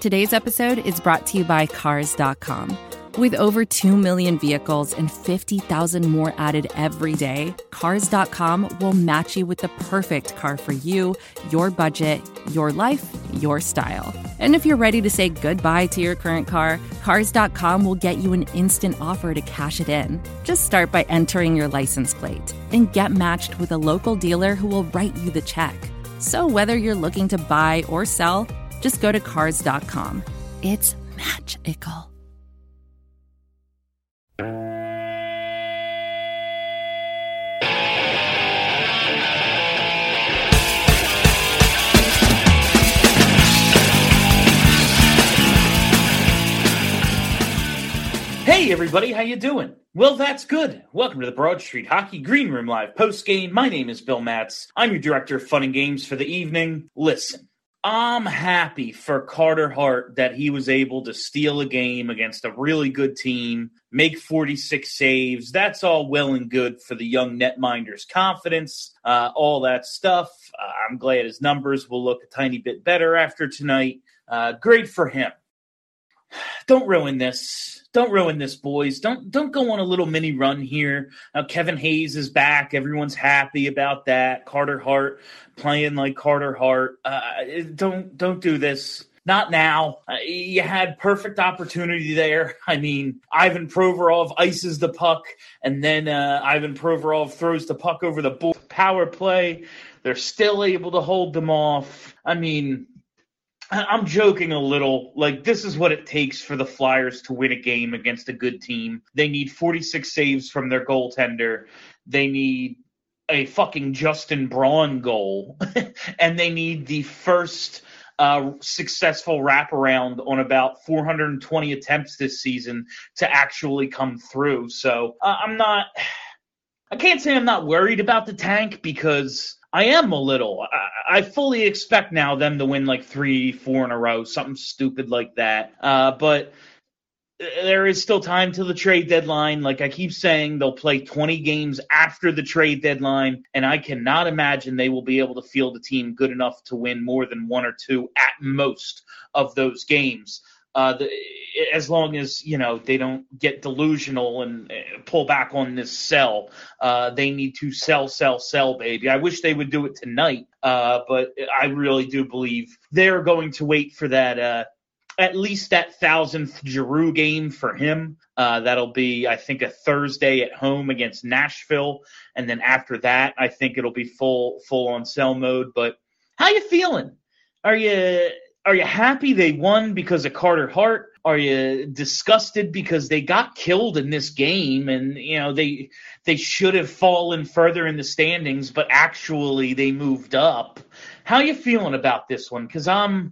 Today's episode is brought to you by Cars.com. With over 2 million vehicles and 50,000 more added every day, Cars.com will match you with the perfect car for you, your budget, your life, your style. And if you're ready to say goodbye to your current car, Cars.com will get you an instant offer to cash it in. Just start by entering your license plate and get matched with a local dealer who will write you the check. So whether you're looking to buy or sell, just go to Cars.com. It's magical. Hey everybody, how you doing? Well, that's good. Welcome to the Broad Street Hockey Green Room Live post-game. My name is Bill Matz. I'm your director of fun and games for the evening. Listen, I'm happy for Carter Hart that he was able to steal a game against a really good team, make 46 saves. That's all well and good for the young netminder's confidence, all that stuff. I'm glad his numbers will look a tiny bit better after tonight. Great for him. Don't ruin this. Don't ruin this, boys. Don't go on a little mini run here. Kevin Hayes is back. Everyone's happy about that. Carter Hart playing like Carter Hart. Don't do this. Not now. You had perfect opportunity there. I mean, Ivan Provorov ices the puck, and then Ivan Provorov throws the puck over the power play. They're still able to hold them off. I mean, I'm joking a little. Like, this is what it takes for the Flyers to win a game against a good team. They need 46 saves from their goaltender. They need a fucking Justin Braun goal. And they need the first successful wraparound on about 420 attempts this season to actually come through. So I can't say I'm not worried about the tank, because I am a little. I fully expect now them to win like 3-4 in a row, something stupid like that. But there is still time till the trade deadline. Like I keep saying, they'll play 20 games after the trade deadline, and I cannot imagine they will be able to field a team good enough to win more than 1 or 2 at most of those games. As long as, they don't get delusional and pull back on this sell. They need to sell, baby. I wish they would do it tonight, but I really do believe they're going to wait for that, at least that 1,000th Giroux game for him. That'll be, I think, a Thursday at home against Nashville, and then after that, I think it'll be full on sell mode. But how you feeling? Are you happy they won because of Carter Hart? Are you disgusted because they got killed in this game and, they should have fallen further in the standings, but actually they moved up? How you feeling about this one? Because I'll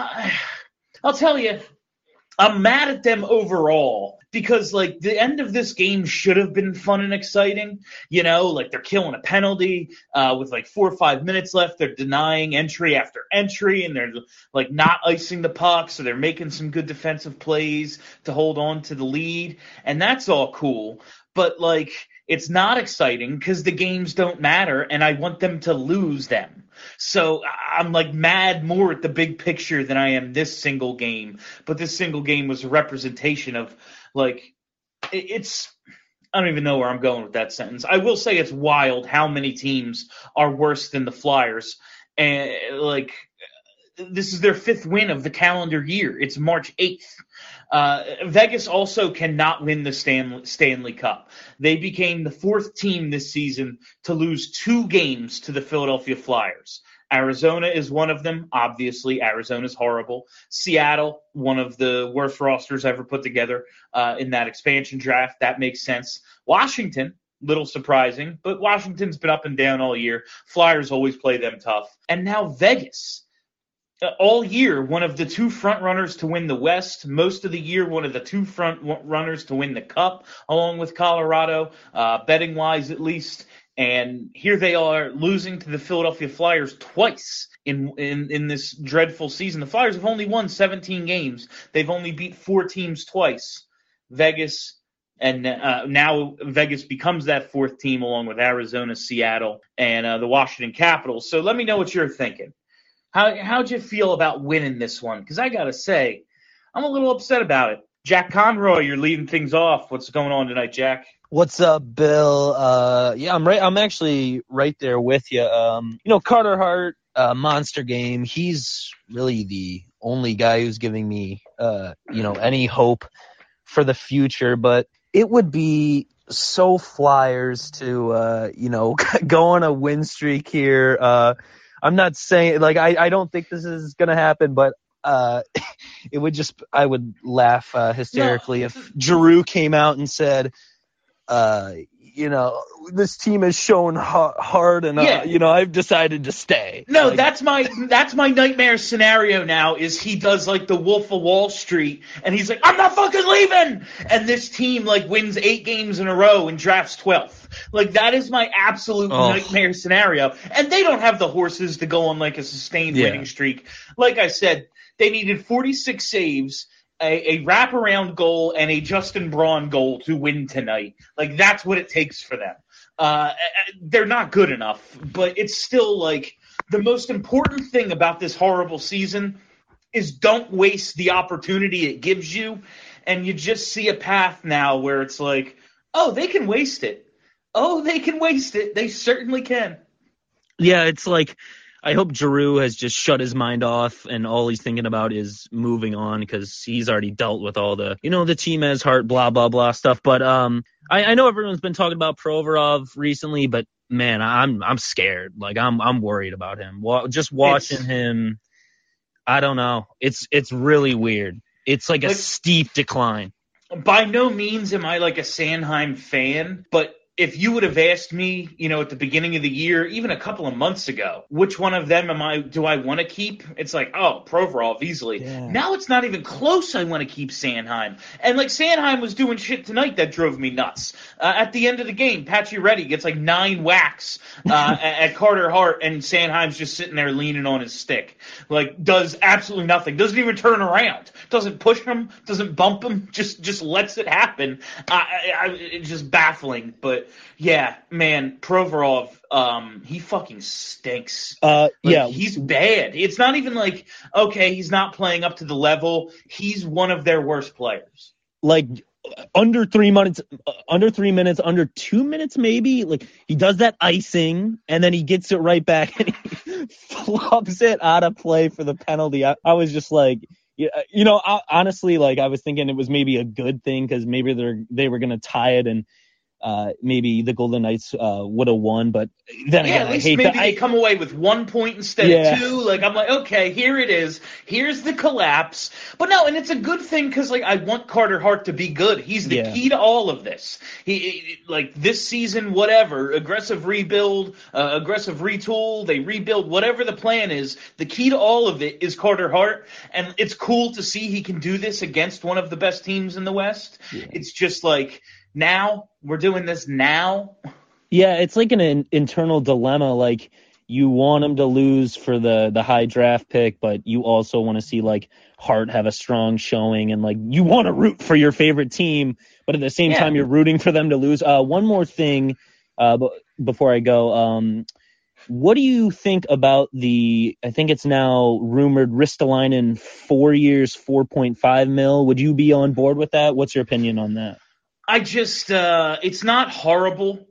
tell you, I'm mad at them overall because, like, the end of this game should have been fun and exciting. Like they're killing a penalty with like 4 or 5 minutes left. They're denying entry after entry, and they're like not icing the puck, so they're making some good defensive plays to hold on to the lead, and that's all cool. But, like, it's not exciting because the games don't matter, and I want them to lose them. So I'm like mad more at the big picture than I am this single game. But this single game was a representation of, like, it's – I don't even know where I'm going with that sentence. I will say it's wild how many teams are worse than the Flyers. And, like, this is their 5th win of the calendar year. It's March 8th. Vegas also cannot win the Stanley Cup. They became the 4th team this season to lose 2 games to the Philadelphia Flyers. Arizona is one of them. Obviously, Arizona's horrible. Seattle, one of the worst rosters ever put together in that expansion draft. That makes sense. Washington, little surprising, but Washington's been up and down all year. Flyers always play them tough. And now Vegas. All year, one of the 2 front runners to win the West. Most of the year, one of the 2 front runners to win the Cup, along with Colorado, betting-wise at least. And here they are losing to the Philadelphia Flyers twice in this dreadful season. The Flyers have only won 17 games. They've only beat 4 teams twice. Vegas, and now Vegas becomes that 4th team along with Arizona, Seattle, and the Washington Capitals. So let me know what you're thinking. How'd you feel about winning this one? Because I gotta say, I'm a little upset about it. Jack Conroy, you're leading things off. What's going on tonight, Jack? What's up, Bill? Yeah, I'm right. I'm actually right there with you. Carter Hart, Monster Game. He's really the only guy who's giving me, any hope for the future. But it would be so Flyers to, go on a win streak here. I'm not saying I don't think this is gonna happen, but it would I would laugh hysterically if Giroux came out and said, this team has shown hard, and I've decided to stay. No, that's my nightmare scenario now. Is he does like the Wolf of Wall Street, and he's like, I'm not fucking leaving, and this team wins 8 games in a row and drafts 12th. That is my absolute nightmare scenario, and they don't have the horses to go on a sustained winning streak. Like I said, they needed 46 saves. A wraparound goal and a Justin Braun goal to win tonight. That's what it takes for them. They're not good enough, but it's still the most important thing about this horrible season is don't waste the opportunity it gives you. And you just see a path now where it's they can waste it. Oh, they can waste it. They certainly can. Yeah, it's I hope Giroux has just shut his mind off and all he's thinking about is moving on because he's already dealt with all the, the team has heart, blah, blah, blah stuff. But I know everyone's been talking about Provorov recently, but man, I'm scared. I'm worried about him. Just watching him, I don't know. It's really weird. It's a steep decline. By no means am I a Sanheim fan, but if you would have asked me, at the beginning of the year, even a couple of months ago, which one of them do I want to keep? It's Provorov easily. Yeah. Now it's not even close. I want to keep Sanheim. And Sanheim was doing shit tonight that drove me nuts. At the end of the game, Pacioretty gets 9 whacks at Carter Hart, and Sanheim's just sitting there leaning on his stick. Does absolutely nothing. Doesn't even turn around. Doesn't push him. Doesn't bump him. Just lets it happen. It's just baffling, but yeah, man, Provorov, he fucking stinks. He's bad. It's not even okay, he's not playing up to the level. He's one of their worst players. Under 3 minutes, under 2 minutes maybe. He does that icing, and then he gets it right back, and he flops it out of play for the penalty. I was just honestly, I was thinking it was maybe a good thing because maybe they were going to tie it, and maybe the Golden Knights would have won, but then again, at least maybe they come away with 1 point instead of 2. I'm okay, here it is. Here's the collapse. But no, and it's a good thing because I want Carter Hart to be good. He's the key to all of this. He this season, whatever, aggressive rebuild, aggressive retool, they rebuild, whatever the plan is. The key to all of it is Carter Hart, and it's cool to see he can do this against one of the best teams in the West. Yeah. It's just now we're doing this now. Yeah, it's an internal dilemma. You want him to lose for the high draft pick, but you also want to see Hart have a strong showing, and you want to root for your favorite team, but at the same time you're rooting for them to lose. One more thing before I go. What do you think about I think it's now rumored Ristolainen 4 years, $4.5 million? Would you be on board with that? What's your opinion on that? I just, it's not horrible.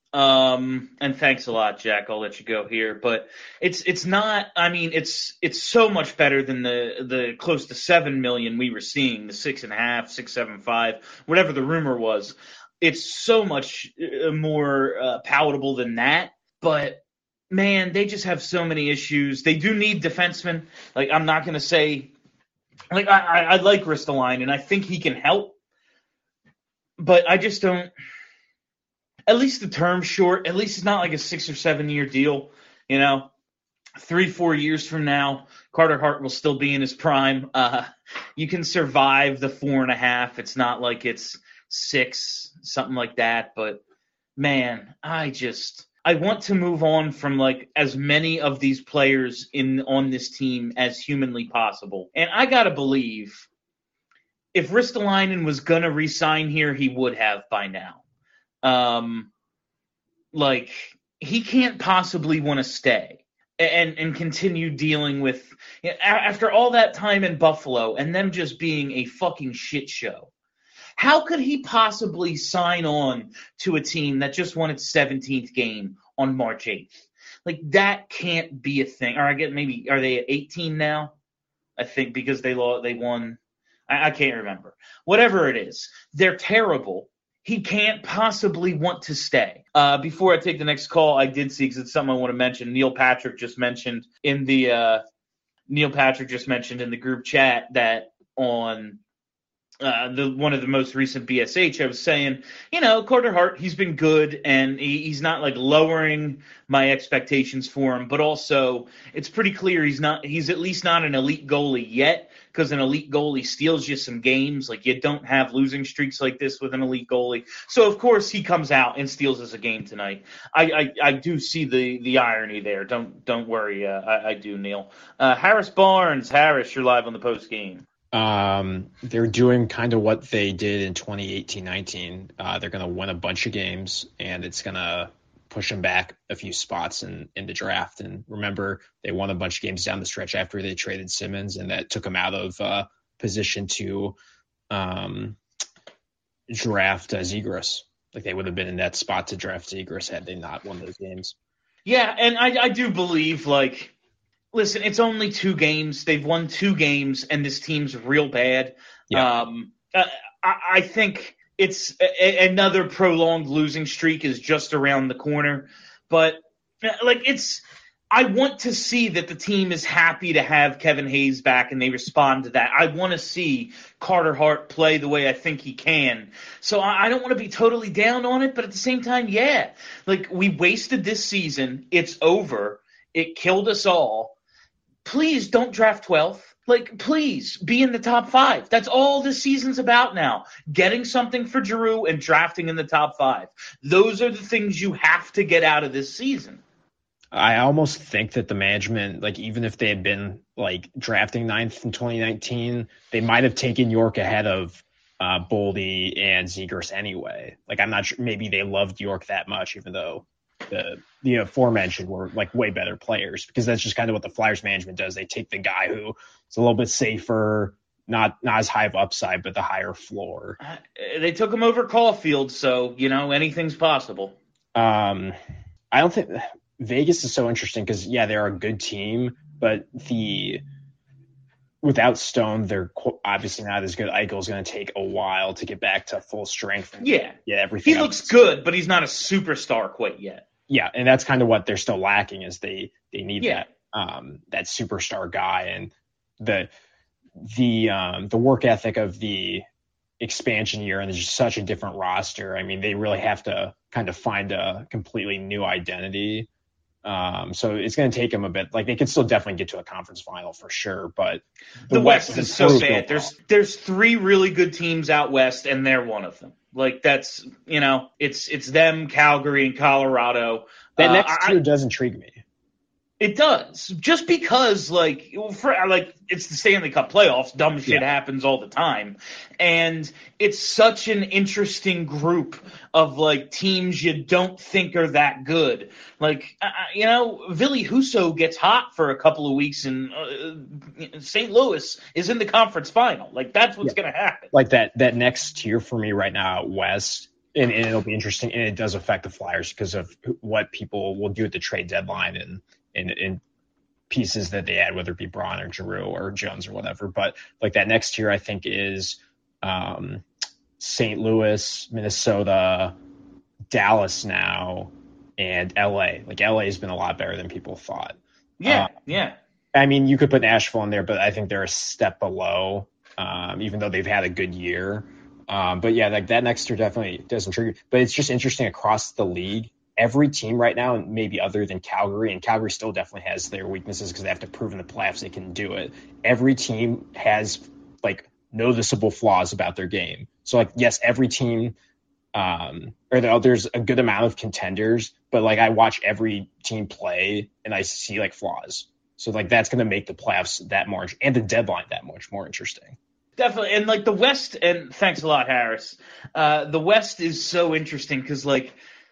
And thanks a lot, Jack. I'll let you go here, but it's not, it's so much better than the close to 7 million we were seeing, the 6.5, 6.75, whatever the rumor was. It's so much more palatable than that, but man, they just have so many issues. They do need defensemen. I'm not going to say, I like Ristolainen, and I think he can help. But I just don't. At least the term's short. At least it's not a 6 or 7 year deal. 3-4 years from now, Carter Hart will still be in his prime. You can survive the 4.5. It's not it's 6, something like that. But man, I want to move on from as many of these players on this team as humanly possible. And I gotta believe, if Ristolainen was going to re-sign here, he would have by now. He can't possibly want to stay. and continue dealing with, after all that time in Buffalo and them just being a fucking shit show. How could he possibly sign on to a team that just won its 17th game on March 8th? Like, that can't be a thing. Or I get, maybe, are they at 18 now? I think because they won. I can't remember. Whatever it is, they're terrible. He can't possibly want to stay. Before I take the next call, I did see, because it's something I want to mention, Neil Patrick just mentioned in the group chat that on one of the most recent BSH, I was saying, Carter Hart, he's been good, and he's not like lowering my expectations for him, but also it's pretty clear he's at least not an elite goalie yet, because an elite goalie steals you some games. Like, you don't have losing streaks like this with an elite goalie. So of course he comes out and steals us a game tonight. I do see the irony there. Don't worry. I do, Neil. Harris Barnes. Harris, you're live on the post game. They're doing kind of what they did in 2018-19. They're going to win a bunch of games, and it's going to push them back a few spots in the draft. And remember, they won a bunch of games down the stretch after they traded Simmons, and that took them out of position to draft Zegras. Like, they would have been in that spot to draft Zegras had they not won those games. Yeah, and I do believe, like, listen, it's only 2 games. They've won 2 games, and this team's real bad. Yeah. I think it's another prolonged losing streak is just around the corner. But, like, I want to see that the team is happy to have Kevin Hayes back, and they respond to that. I want to see Carter Hart play the way I think he can. So I don't want to be totally down on it, but at the same time, yeah. Like, we wasted this season. It's over. It killed us all. Please don't draft 12th. Like, please be in the top 5. That's all this season's about now. Getting something for Giroux and drafting in the top 5. Those are the things you have to get out of this season. I almost think that the management, like, even if they had been like drafting 9th in 2019, they might have taken York ahead of Boldy and Zegras anyway. Like, I'm not sure. Maybe they loved York that much, even though the aforementioned were like way better players, because that's just kind of what the Flyers management does. They take the guy who is a little bit safer, not as high of upside, but the higher floor. They took him over Caulfield, so anything's possible. I don't think Vegas is so interesting because they're a good team, but without Stone, they're obviously not as good. Eichel's going to take a while to get back to full strength. Everything. He looks good, but he's not a superstar quite yet. Yeah, and that's kind of what they're still lacking is they need that superstar guy, and the work ethic of the expansion year, and there's just such a different roster. I mean, they really have to kind of find a completely new identity. So it's going to take them a bit. Like, they could still definitely get to a conference final for sure, but the West is so bad. There's 3 really good teams out West, and they're one of them. Like, that's, it's them, Calgary, and Colorado. That next tier does intrigue me. It does, just because it's the Stanley Cup playoffs. Dumb shit happens all the time, and it's such an interesting group of teams you don't think are that good. Ville Husso gets hot for a couple of weeks, and St. Louis is in the conference final. Like, that's what's going to happen. Like that next tier for me right now out West. And it'll be interesting, and it does affect the Flyers because of what people will do at the trade deadline and in pieces that they add, whether it be Braun or Giroux or Jones or whatever. But that next tier, I think, is St. Louis, Minnesota, Dallas now, and LA. LA has been a lot better than people thought. Yeah. I mean, you could put Nashville in there, but I think they're a step below, even though they've had a good year. But that next tier definitely does intrigue. But it's just interesting across the league. Every team right now, maybe other than Calgary, and Calgary still definitely has their weaknesses because they have to prove in the playoffs they can do it. Every team has noticeable flaws about their game. So yes, every team, there's a good amount of contenders, but I watch every team play and I see flaws. So that's going to make the playoffs that much and the deadline that much more interesting. Definitely. And the West, and thanks a lot, Harris. The West is so interesting because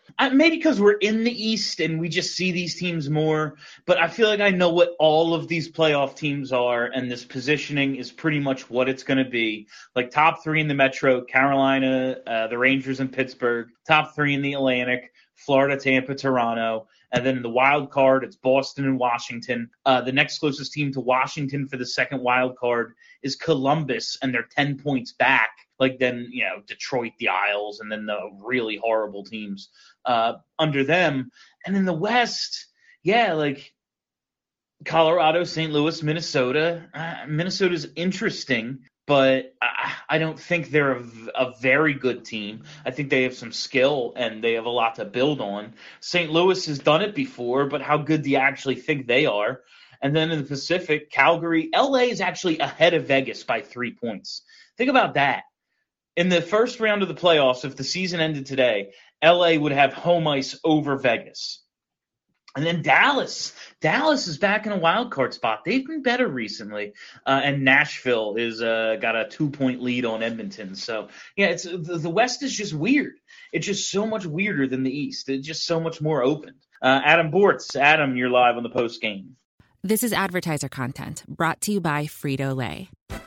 Maybe because we're in the East and we just see these teams more, but I feel like I know what all of these playoff teams are, and this positioning is pretty much what it's going to be. Like top 3 in the Metro, Carolina, the Rangers and Pittsburgh, top 3 in the Atlantic, Florida, Tampa, Toronto. And then in the wild card, it's Boston and Washington. The next closest team to Washington for the second wild card is Columbus, and they're 10 points back. Like then, Detroit, the Isles, and then the really horrible teams under them. And in the West, like Colorado, St. Louis, Minnesota. Minnesota's interesting, but I don't think they're a very good team. I think they have some skill and they have a lot to build on. St. Louis has done it before, but how good do you actually think they are? And then in the Pacific, Calgary, LA is actually ahead of Vegas by 3 points. Think about that. In the first round of the playoffs, if the season ended today, LA would have home ice over Vegas. And then Dallas is back in a wild card spot. They've been better recently. And Nashville is got a 2-point lead on Edmonton. So, it's the West is just weird. It's just so much weirder than the East. It's just so much more open. Adam Bortz. Adam, you're live on the post game. This is advertiser content brought to you by Frito-Lay.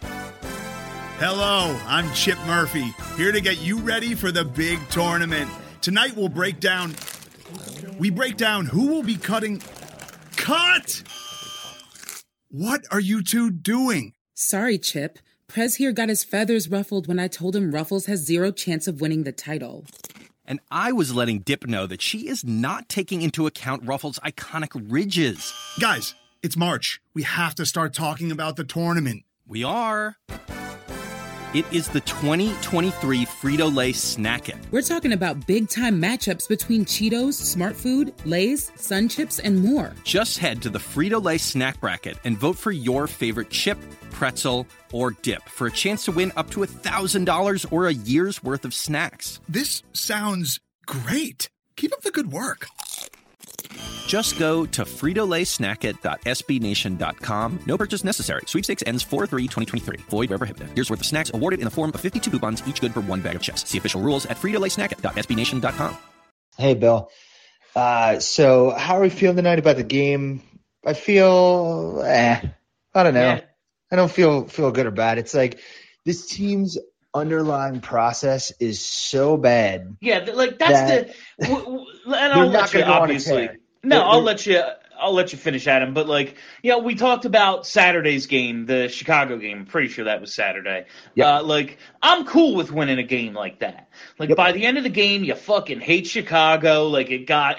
Hello, I'm Chip Murphy, here to get you ready for the big tournament. Tonight we'll break down who will be cutting. Cut! What are you two doing? Sorry, Chip. Prez here got his feathers ruffled when I told him Ruffles has 0 chance of winning the title. And I was letting Dip know that she is not taking into account Ruffles' iconic ridges. Guys, it's March. We have to start talking about the tournament. We are. It is the 2023 Frito-Lay Snack It. We're talking about big-time matchups between Cheetos, Smart Food, Lay's, Sun Chips, and more. Just head to the Frito-Lay Snack Bracket and vote for your favorite chip, pretzel, or dip for a chance to win up to $1,000 or a year's worth of snacks. This sounds great. Keep up the good work. Just go to fritolaysnackit.sbnation.com. No purchase necessary. Sweepstakes ends 4/3/2023. Void where prohibited. Year's worth of snacks awarded in the form of 52 coupons, each good for 1 bag of chips. See official rules at fritolaysnackit.sbnation.com. Hey, Bill. So how are we feeling tonight about the game? I feel, I don't know. Yeah. I don't feel good or bad. It's like this team's underlying process is so bad. Yeah, like that's and I'll let you obviously. No, I'll let you finish, Adam. But we talked about Saturday's game, the Chicago game. I'm pretty sure that was Saturday. Yep. I'm cool with winning a game like that. By the end of the game, you fucking hate Chicago. It got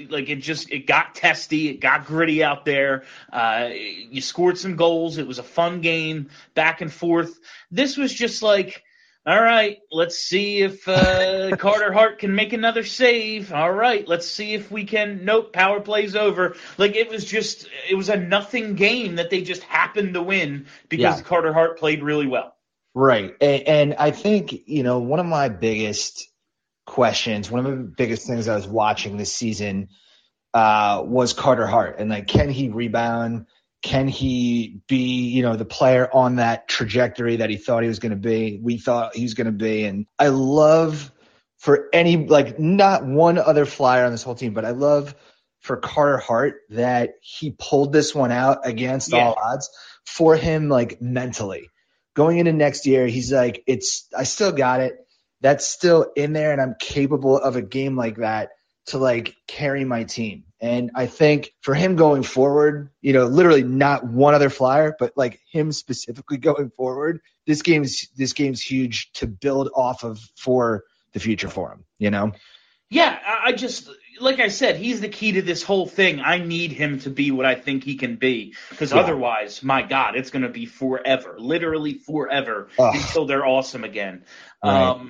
testy. It got gritty out there. You scored some goals. It was a fun game, back and forth. This was just all right, let's see if Carter Hart can make another save. All right, let's see if we can. Nope, power play's over. It was a nothing game that they just happened to win because Carter Hart played really well. Right, and I think, one of my biggest questions, one of the biggest things I was watching this season was Carter Hart. And, can he rebound? Can he be, the player on that trajectory that he thought he was going to be? We thought he was going to be. And I love for not one other flyer on this whole team, but I love for Carter Hart that he pulled this one out against all odds for him, mentally. Going into next year, he's I still got it. That's still in there, and I'm capable of a game like that to carry my team. And I think for him going forward, literally not one other flyer, but him specifically going forward, this game's huge to build off of for the future for him, Yeah, I just, like I said, he's the key to this whole thing. I need him to be what I think he can be, because otherwise, my God, it's going to be forever, literally forever, until they're awesome again. Right.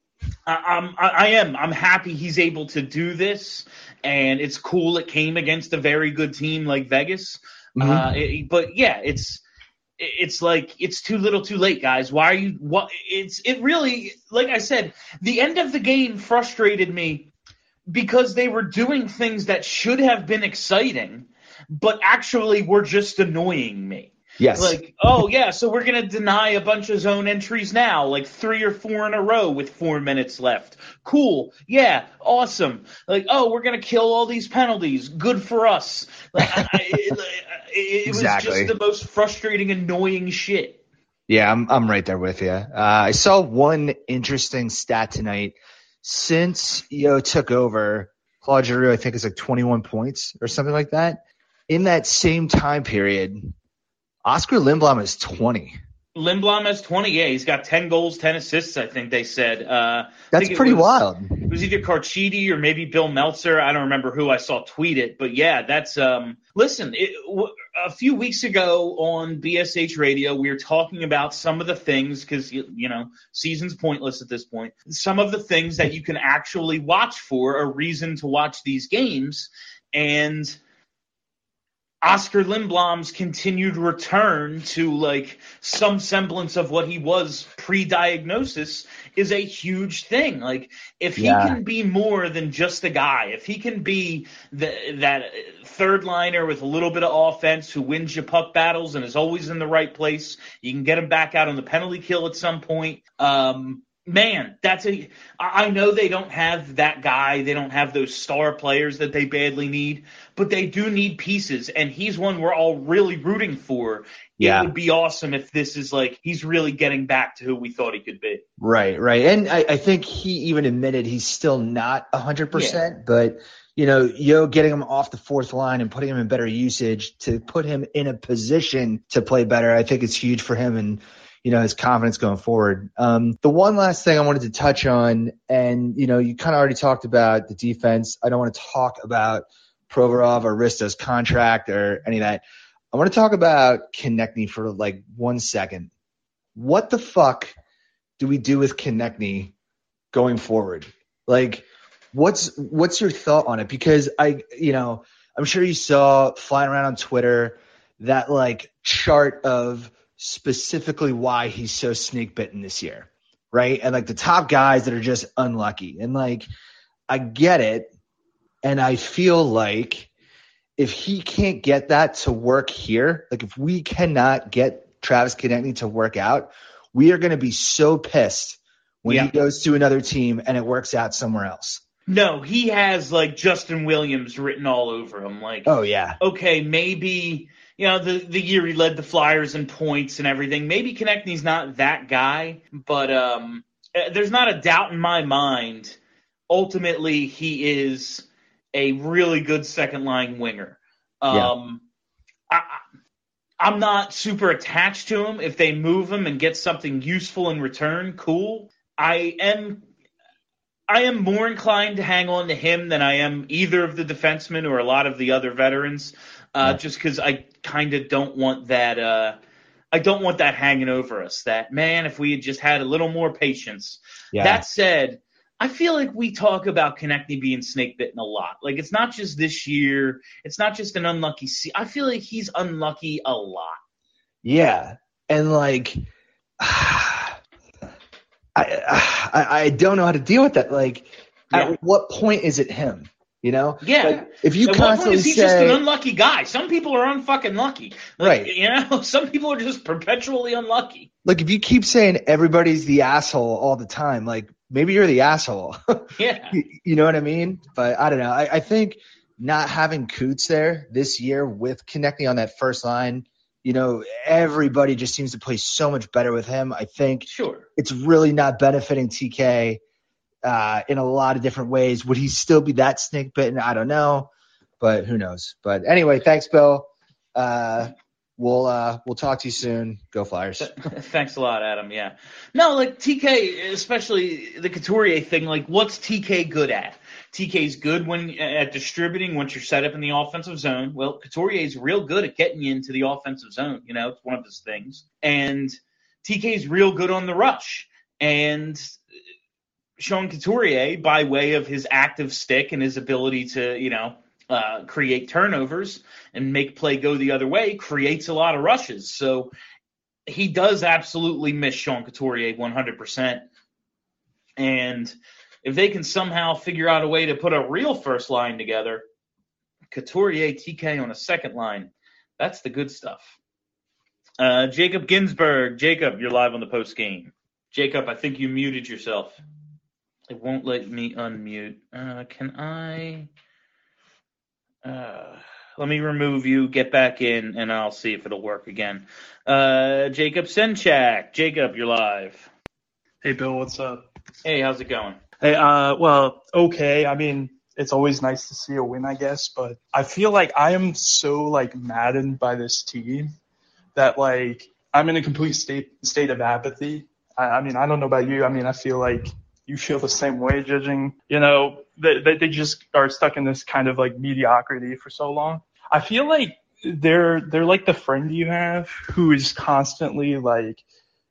I'm happy he's able to do this, and it's cool it came against a very good team like Vegas. Mm-hmm. It's too little too late, guys. Why are you – it really – like I said, the end of the game frustrated me because they were doing things that should have been exciting but actually were just annoying me. Yes. Like, oh, yeah, so we're going to deny a bunch of zone entries now, like 3 or 4 in a row with 4 minutes left. Cool. Yeah, awesome. Like, oh, we're going to kill all these penalties. Good for us. Like, it Exactly. was just the most frustrating, annoying shit. Yeah, I'm right there with you. I saw one interesting stat tonight. Since Yo took over, Claude Giroux, I think, is like 21 points or something like that. In that same time period, Oscar Lindblom is 20. Lindblom has 20. Yeah, he's got 10 goals, 10 assists, I think they said. That's pretty wild. It was either Carchidi or maybe Bill Meltzer. I don't remember who I saw tweet it. But, yeah, that's listen, a few weeks ago on BSH Radio, we were talking about some of the things because, you know, season's pointless at this point. Some of the things that you can actually watch for, a reason to watch these games. And Oscar Lindblom's continued return to like some semblance of what he was pre-diagnosis is a huge thing. Like if he can be more than just a guy, if he can be that third liner with a little bit of offense who wins you puck battles and is always in the right place, you can get him back out on the penalty kill at some point. Man, I know they don't have that guy. They don't have those star players that they badly need, but they do need pieces, and he's one we're all really rooting for. Yeah. It would be awesome if this is like he's really getting back to who we thought he could be. Right. And I think he even admitted he's still not 100%, but, you know, Yo getting him off the fourth line and putting him in better usage to put him in a position to play better, I think it's huge for him and, you know, his confidence going forward. The one last thing I wanted to touch on, and, you know, you kind of already talked about the defense. I don't want to talk about Provorov or Rista's contract or any of that. I want to talk about Konechny for like 1 second. What the fuck do we do with Konechny going forward? Like, what's your thought on it? Because I'm sure you saw flying around on Twitter that like chart of specifically why he's so snake bitten this year, right? And like the top guys that are just unlucky. And like, I get it. And I feel like if he can't get that to work here, like if we cannot get Travis Konechny to work out, we are going to be so pissed when he goes to another team and it works out somewhere else. No, he has like Justin Williams written all over him. Like, oh yeah, okay, maybe. You know, the year he led the Flyers in points and everything. Maybe Konechny's not that guy, but there's not a doubt in my mind. Ultimately, he is a really good second-line winger. I'm not super attached to him. If they move him and get something useful in return, cool. I am more inclined to hang on to him than I am either of the defensemen or a lot of the other veterans. Just because I kind of don't want that. I don't want that hanging over us. That, man, if we had just had a little more patience. Yeah. That said, I feel like we talk about Konechny being snake bitten a lot. Like it's not just this year. It's not just an unlucky I feel like he's unlucky a lot. Yeah, and like I don't know how to deal with that. Like, at what point is it him? You know? Yeah. Like, if you at constantly what point is he just an unlucky guy? Some people are unfucking lucky. Like, right. You know, some people are just perpetually unlucky. Like, if you keep saying everybody's the asshole all the time, like, maybe you're the asshole. Yeah. You know what I mean? But I don't know. I think not having Coots there this year with Konechny on that first line, you know, everybody just seems to play so much better with him. I think it's really not benefiting TK in a lot of different ways. Would he still be that snake bitten? I don't know, but who knows? But anyway, thanks, Bill. We'll talk to you soon. Go Flyers. Thanks a lot, Adam. Yeah. No, like TK, especially the Couturier thing, like what's TK good at? TK's good at distributing once you're set up in the offensive zone. Well, Couturier's real good at getting you into the offensive zone. You know, it's one of his things. And TK's real good on the rush. And Sean Couturier, by way of his active stick and his ability to, you know, create turnovers and make play go the other way, creates a lot of rushes. So he does absolutely miss Sean Couturier 100%. And if they can somehow figure out a way to put a real first line together, Couturier, TK on a second line, that's the good stuff. Jacob Ginsburg. Jacob, you're live on the post game. Jacob, I think you muted yourself. It won't let me unmute. Can I? Let me remove you, get back in, and I'll see if it'll work again. Jacob Senchak. Jacob, you're live. Hey, Bill, what's up? Hey, how's it going? Hey, well, okay. I mean, it's always nice to see a win, I guess, but I feel like I am so, like, maddened by this team that, like, I'm in a complete state of apathy. I mean, I don't know about you. I mean, I feel like you feel the same way, judging, you know, they just are stuck in this kind of, like, mediocrity for so long. I feel like they're like the friend you have who is constantly, like,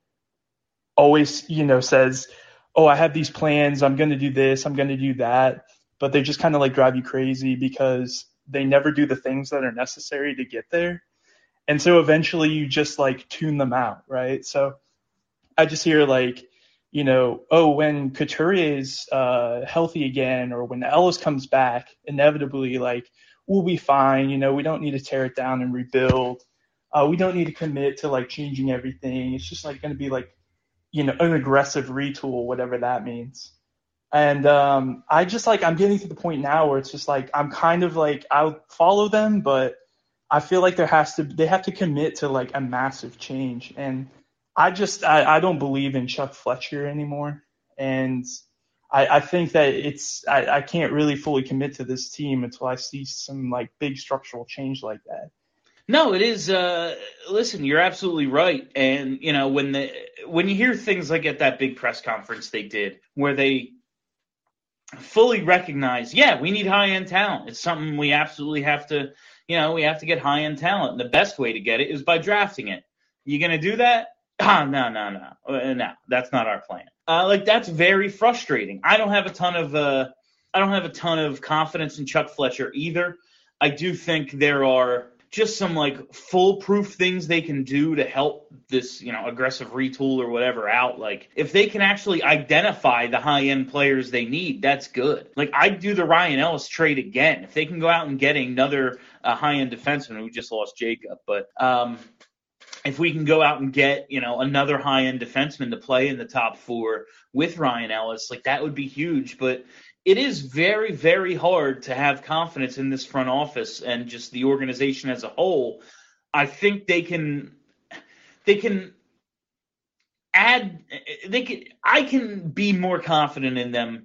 always, you know, says, oh, I have these plans, I'm going to do this, I'm going to do that, but they just kind of like drive you crazy because they never do the things that are necessary to get there. And so eventually you just like tune them out, right? So I just hear like, you know, oh, when Couturier's healthy again, or when Ellis comes back, inevitably, like, we'll be fine. You know, we don't need to tear it down and rebuild. We don't need to commit to like changing everything. It's just like going to be like, you know, an aggressive retool, whatever that means. And I just like, I'm getting to the point now where it's just like, I'm kind of like, I'll follow them, but I feel like they have to commit to like a massive change. And I don't believe in Chuck Fletcher anymore. And I think that I can't really fully commit to this team until I see some like big structural change like that. No, it is. Listen, you're absolutely right. And, you know, when you hear things like at that big press conference they did where they fully recognize, yeah, we need high-end talent. It's something we absolutely have to, you know, we have to get high-end talent. And the best way to get it is by drafting it. You going to do that? No, that's not our plan. Like, that's very frustrating. I don't have a ton of confidence in Chuck Fletcher either. I do think there are just some like foolproof things they can do to help this, you know, aggressive retool or whatever out. Like, if they can actually identify the high-end players they need, that's good. Like, I'd do the Ryan Ellis trade again. If they can go out and get another high-end defenseman, we just lost Jacob, but if we can go out and get, you know, another high-end defenseman to play in the top four with Ryan Ellis, like, that would be huge. But it is very, very hard to have confidence in this front office and just the organization as a whole. I think I can be more confident in them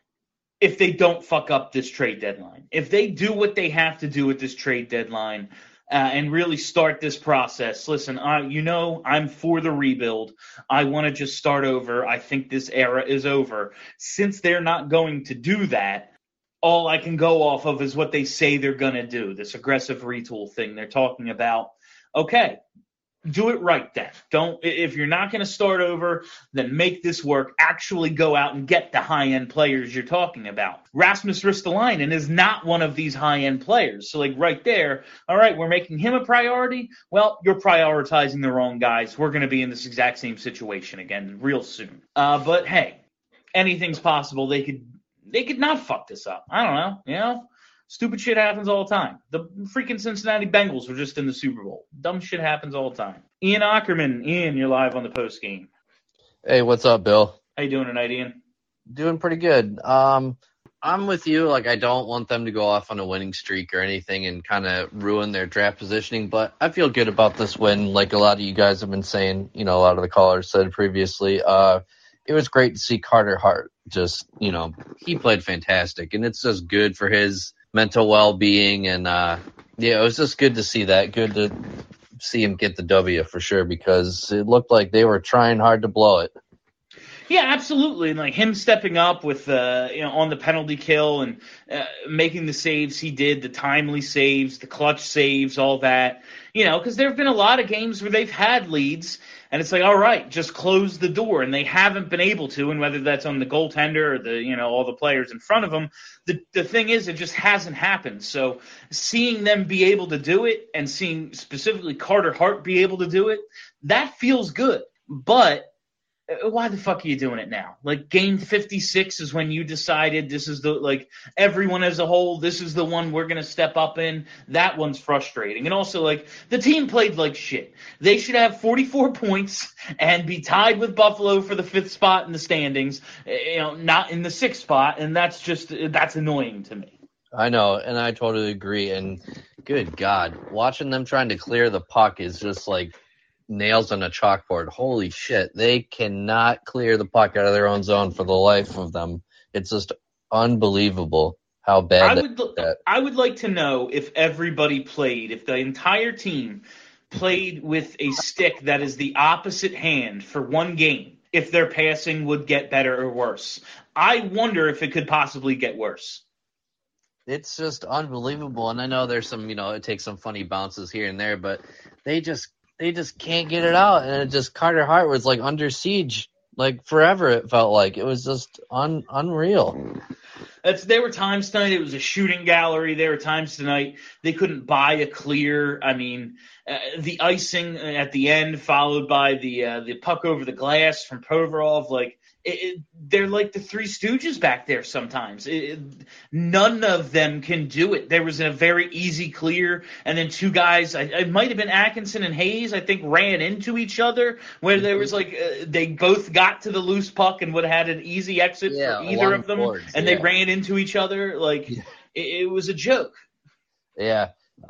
if they don't fuck up this trade deadline. If they do what they have to do at this trade deadline, and really start this process. Listen, you know, I'm for the rebuild. I want to just start over. I think this era is over. Since they're not going to do that, all I can go off of is what they say they're going to do, this aggressive retool thing they're talking about. Okay, do it right then. If you're not going to start over, then make this work. Actually go out and get the high-end players you're talking about. Rasmus Ristolainen is not one of these high-end players. So, like, right there, all right, we're making him a priority. Well, you're prioritizing the wrong guys. We're going to be in this exact same situation again real soon. But, hey, anything's possible. They could not fuck this up. I don't know, you know? Stupid shit happens all the time. The freaking Cincinnati Bengals were just in the Super Bowl. Dumb shit happens all the time. Ian Ackerman. Ian, you're live on the post game. Hey, what's up, Bill? How you doing tonight, Ian? Doing pretty good. I'm with you. Like, I don't want them to go off on a winning streak or anything and kind of ruin their draft positioning, but I feel good about this win. Like a lot of you guys have been saying, you know, a lot of the callers said previously, it was great to see Carter Hart. Just, you know, he played fantastic, and it's just good for his mental well-being, and it was just good to see that. Good to see him get the W for sure, because it looked like they were trying hard to blow it. Yeah, absolutely. And like him stepping up with, on the penalty kill and making the saves he did, the timely saves, the clutch saves, all that, you know, because there have been a lot of games where they've had leads and it's like, all right, just close the door. And they haven't been able to. And whether that's on the goaltender or the, you know, all the players in front of them, the thing is, it just hasn't happened. So seeing them be able to do it and seeing specifically Carter Hart be able to do it, that feels good. But why the fuck are you doing it now? Like, game 56 is when you decided this is everyone as a whole, this is the one we're going to step up in. That one's frustrating. And also, the team played like shit. They should have 44 points and be tied with Buffalo for the 5th spot in the standings, not in the 6th spot, and that's annoying to me. I know, and I totally agree. And good God, watching them trying to clear the puck is just like nails on a chalkboard. Holy shit, they cannot clear the puck out of their own zone for the life of them. It's just unbelievable how bad I would like to know if everybody played, if the entire team played with a stick that is the opposite hand for one game, if their passing would get better or worse. I wonder if it could possibly get worse. It's just unbelievable. And I know there's some, it takes some funny bounces here and there, but they just can't get it out. And it just, Carter Hart was like under siege, like forever. It felt like it was just unreal. There were times tonight it was a shooting gallery. There were times tonight they couldn't buy a clear. I mean, the icing at the end followed by the puck over the glass from Provorov, they're like the Three Stooges back there sometimes. None of them can do it. There was a very easy clear, and then two guys, it might have been Atkinson and Hayes, I think, ran into each other, where there was they both got to the loose puck and would have had an easy exit for either of them, and they ran into each other. It was a joke. Yeah.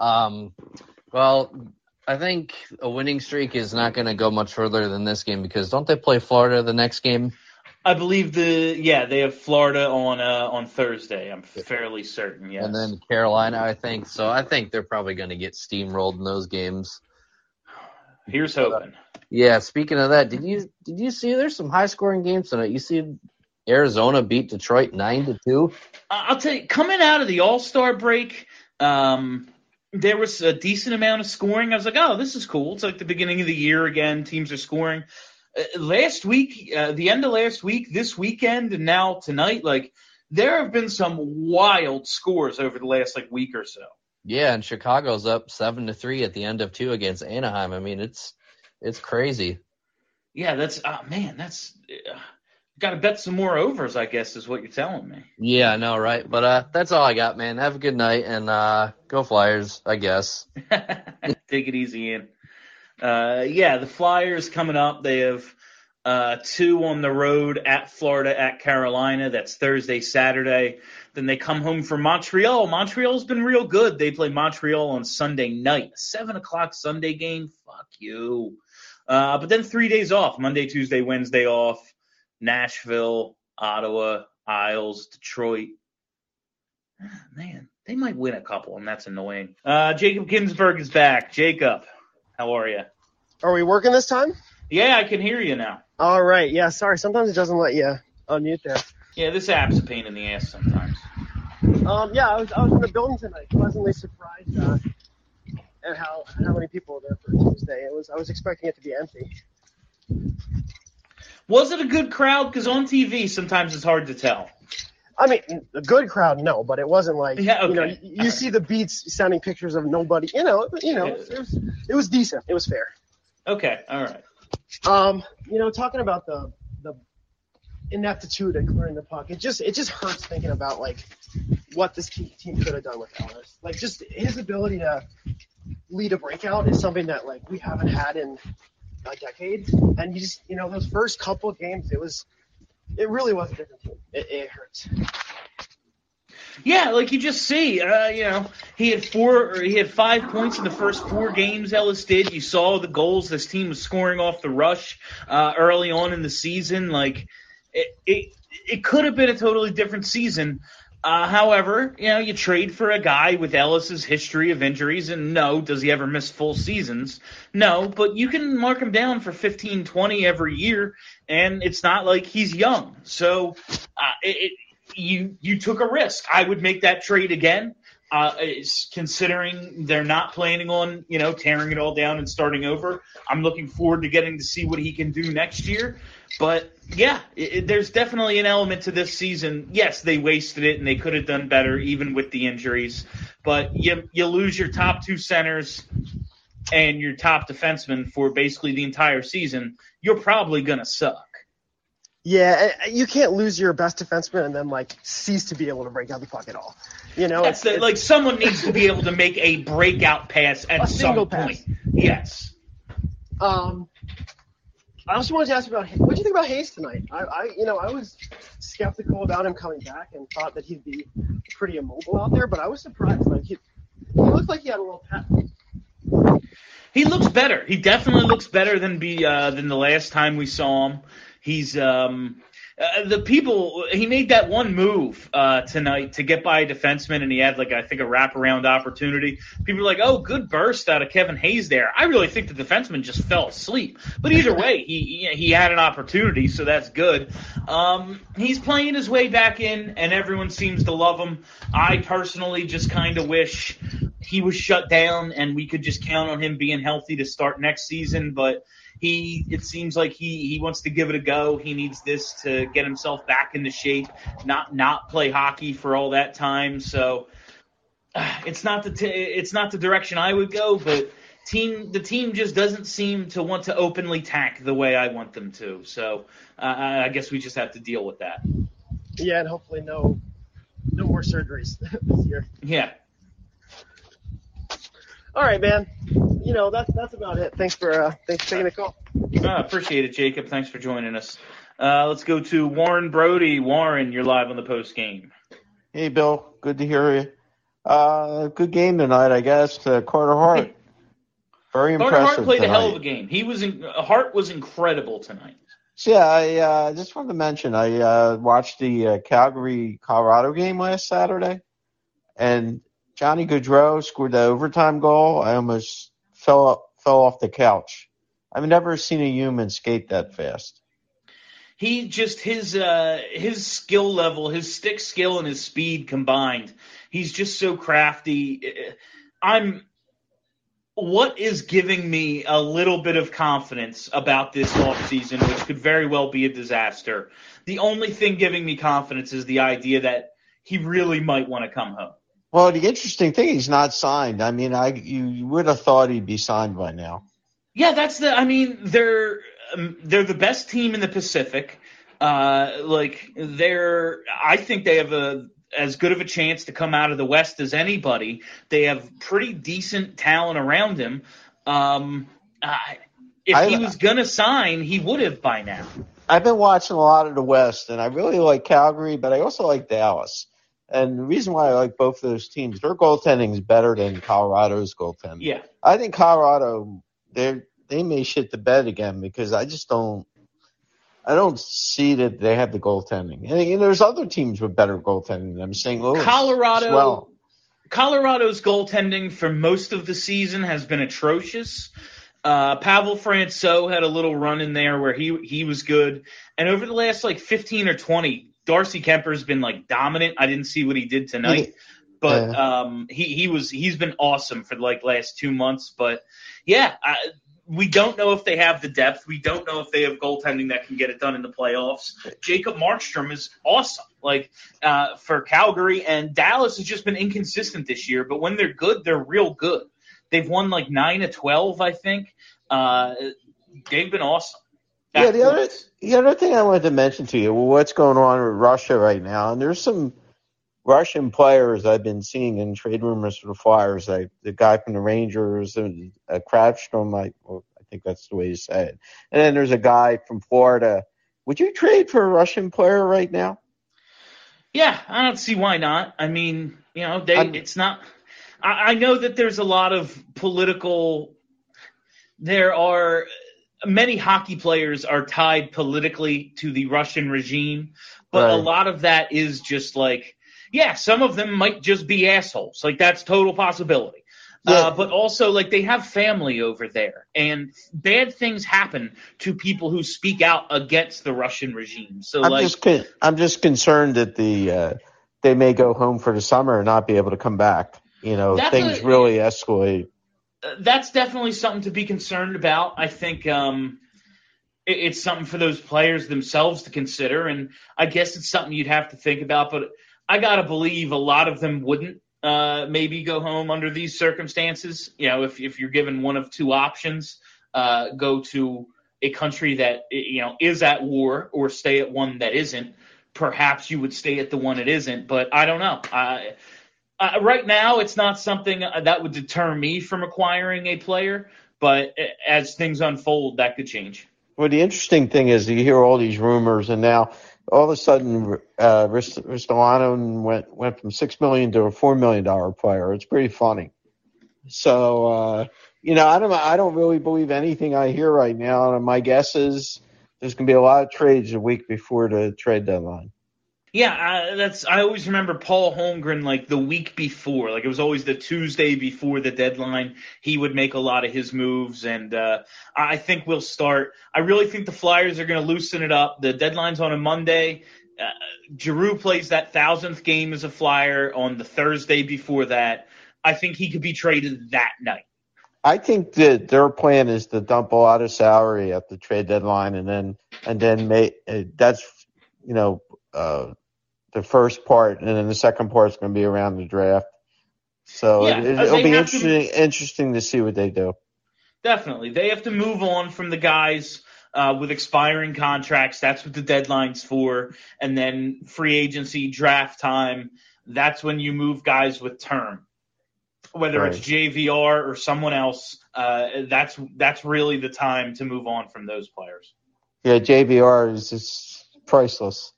Well, I think a winning streak is not going to go much further than this game because don't they play Florida the next game? I believe they have Florida on Thursday. I'm fairly certain, yes. And then Carolina, I think. So I think they're probably going to get steamrolled in those games. Here's hoping. Yeah, speaking of that, did you see there's some high-scoring games tonight? You see Arizona beat Detroit 9-2? I'll tell you, coming out of the All-Star break, there was a decent amount of scoring. I was like, oh, this is cool. It's like the beginning of the year again. Teams are scoring. Last week, the end of last week, this weekend, and now tonight, there have been some wild scores over the last week or so. Yeah, and Chicago's up 7-3 at the end of 2 against Anaheim. I mean, it's crazy. Yeah, that's got to bet some more overs, I guess, is what you're telling me. Yeah, I know, right? But that's all I got, man. Have a good night, and go Flyers, I guess. Take it easy, Ian. The Flyers coming up. They have 2 on the road at Florida, at Carolina. That's Thursday, Saturday. Then they come home from Montreal. Montreal's been real good. They play Montreal on Sunday night. 7 o'clock Sunday game. Fuck you. But then 3 days off. Monday, Tuesday, Wednesday off. Nashville, Ottawa, Isles, Detroit. Man, they might win a couple, and that's annoying. Jacob Ginsberg is back. Jacob, how are you? Are we working this time? Yeah, I can hear you now. All right. Yeah, sorry. Sometimes it doesn't let you unmute there. Yeah, this app's a pain in the ass sometimes. I was in the building tonight. Pleasantly surprised at how many people were there for Tuesday. I was expecting it to be empty. Was it a good crowd? Because on TV, sometimes it's hard to tell. I mean, a good crowd, no, but it wasn't like, okay. You see the Beats sending pictures of nobody, it was decent. It was fair. Okay. All right. Talking about the ineptitude at clearing the puck, it just hurts thinking about what this team could have done with Ellis. Just his ability to lead a breakout is something that we haven't had in a decade. And you just, those first couple of games, it really was a different team. It hurts. Yeah, you just see, he had 5 points in the first 4 games. Ellis did. You saw the goals this team was scoring off the rush early on in the season. It could have been a totally different season. However, you trade for a guy with Ellis's history of injuries, and no, does he ever miss full seasons? No, but you can mark him down for 15, 20 every year, and it's not like he's young. So you took a risk. I would make that trade again, considering they're not planning on, tearing it all down and starting over. I'm looking forward to getting to see what he can do next year. But, yeah, there's definitely an element to this season. Yes, they wasted it, and they could have done better even with the injuries. But you lose your top 2 centers and your top defenseman for basically the entire season. You're probably going to suck. Yeah, you can't lose your best defenseman and then cease to be able to break out the puck at all. That's like someone needs to be able to make a breakout pass at some point. Yes. I also wanted to ask about what do you think about Hayes tonight? I was skeptical about him coming back and thought that he'd be pretty immobile out there, but I was surprised. He looked like he had a little pep. He looks better. He definitely looks better than the last time we saw him. He's he made that one move tonight to get by a defenseman, and he had I think a wraparound opportunity. People were like, "Oh, good burst out of Kevin Hayes there." I really think the defenseman just fell asleep. But either way, he had an opportunity, so that's good. He's playing his way back in, and everyone seems to love him. I personally just kind of wish he was shut down and we could just count on him being healthy to start next season, but it seems like he wants to give it a go. He needs this to get himself back into shape, not play hockey for all that time. So it's not the direction I would go, but the team just doesn't seem to want to openly tank the way I want them to. So I guess we just have to deal with that. Yeah, and hopefully no more surgeries this year. Yeah. All right, man. That's about it. Thanks for taking the call. Appreciate it, Jacob. Thanks for joining us. Let's go to Warren Brody. Warren, you're live on the post game. Hey, Bill. Good to hear you. Good game tonight, I guess. Carter Hart. Very impressive. Carter Hart played tonight. a hell of a game. Hart was incredible tonight. So, yeah, I just wanted to mention I watched the Calgary-Colorado game last Saturday, and Johnny Gaudreau scored the overtime goal. I almost fell off the couch. I've never seen a human skate that fast. He just his skill level, his stick skill and his speed combined. He's just so crafty. What is giving me a little bit of confidence about this offseason, which could very well be a disaster. The only thing giving me confidence is the idea that he really might want to come home. Well, the interesting thing, he's not signed. I mean, you would have thought he'd be signed by now. Yeah, they're the best team in the Pacific. I think they have as good of a chance to come out of the West as anybody. They have pretty decent talent around him. If he was going to sign, he would have by now. I've been watching a lot of the West, and I really like Calgary, but I also like Dallas. And the reason why I like both of those teams, their goaltending is better than Colorado's goaltending. Yeah. I think Colorado, they may shit the bed again because I don't see that they have the goaltending. And there's other teams with better goaltending than them. St. Louis. Colorado's goaltending for most of the season has been atrocious. Pavel Francouz had a little run in there where he was good. And over the last 15 or 20, Darcy Kemper's been dominant. I didn't see what he did tonight, but he's been awesome for the last 2 months. But yeah, we don't know if they have the depth. We don't know if they have goaltending that can get it done in the playoffs. Jacob Markstrom is awesome, for Calgary, and Dallas has just been inconsistent this year. But when they're good, they're real good. They've won 9 of 12, I think. They've been awesome. Yeah, the other thing I wanted to mention to you, what's going on with Russia right now, and there's some Russian players I've been seeing in trade rumors for the Flyers, like the guy from the Rangers, and Kravstrom, I think that's the way you say it. And then there's a guy from Florida. Would you trade for a Russian player right now? Yeah, I don't see why not. I mean, it's not – I know that there's a lot of political – there are – many hockey players are tied politically to the Russian regime, but a lot of that is just some of them might just be assholes. That's total possibility. Yeah. But also, they have family over there, and bad things happen to people who speak out against the Russian regime. So, I'm just concerned that they may go home for the summer and not be able to come back. Things really escalate. That's definitely something to be concerned about. I think it's something for those players themselves to consider, and I guess it's something you'd have to think about. But I got to believe a lot of them wouldn't maybe go home under these circumstances. If you're given one of two options, go to a country that, is at war or stay at one that isn't. Perhaps you would stay at the one it isn't, but I don't know. Right now, it's not something that would deter me from acquiring a player, but as things unfold, that could change. Well, the interesting thing is you hear all these rumors, and now all of a sudden, Ristolainen went from $6 million to a $4 million player. It's pretty funny. So, I don't really believe anything I hear right now, and my guess is there's going to be a lot of trades a week before the trade deadline. Yeah, I always remember Paul Holmgren, like the week before, like it was always the Tuesday before the deadline. He would make a lot of his moves, and I think we'll start. I really think the Flyers are going to loosen it up. The deadline's on a Monday. Giroux plays that 1,000th game as a Flyer on the Thursday before that. I think he could be traded that night. I think that their plan is to dump a lot of salary at the trade deadline, and then make that's the first part, and then the second part is going to be around the draft. So it'll be interesting to see what they do. Definitely, they have to move on from the guys with expiring contracts. That's what the deadline's for, and then free agency, draft time. That's when you move guys with term. Whether it's JVR or someone else, that's really the time to move on from those players. Yeah, JVR is just priceless.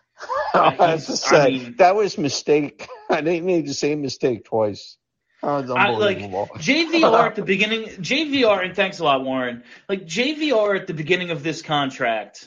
That was a mistake. I didn't need the same mistake twice. That was unbelievable. JVR at the beginning. JVR, and thanks a lot, Warren. Like JVR at the beginning of this contract,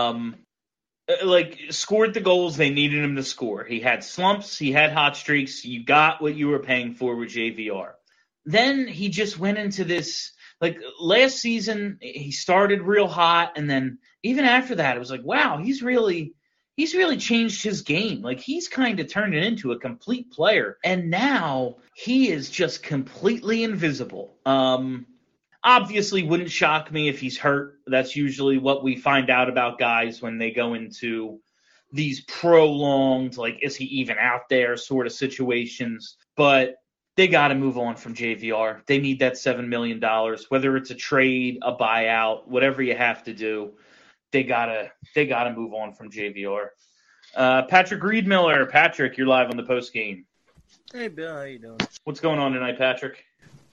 scored the goals they needed him to score. He had slumps, he had hot streaks. You got what you were paying for with JVR. Then he just went into this, last season, he started real hot, and then even after that, it was like, wow, he's really changed his game. Like, he's kind of turned it into a complete player, and now he is just completely invisible. Obviously, wouldn't shock me if he's hurt. That's usually what we find out about guys when they go into these prolonged, is he even out there sort of situations. But they got to move on from JVR. They need that $7 million, whether it's a trade, a buyout, whatever you have to do. They gotta move on from JVR. Patrick Reedmiller. Patrick, you're live on the post game. Hey, Bill, how you doing? What's going on tonight, Patrick?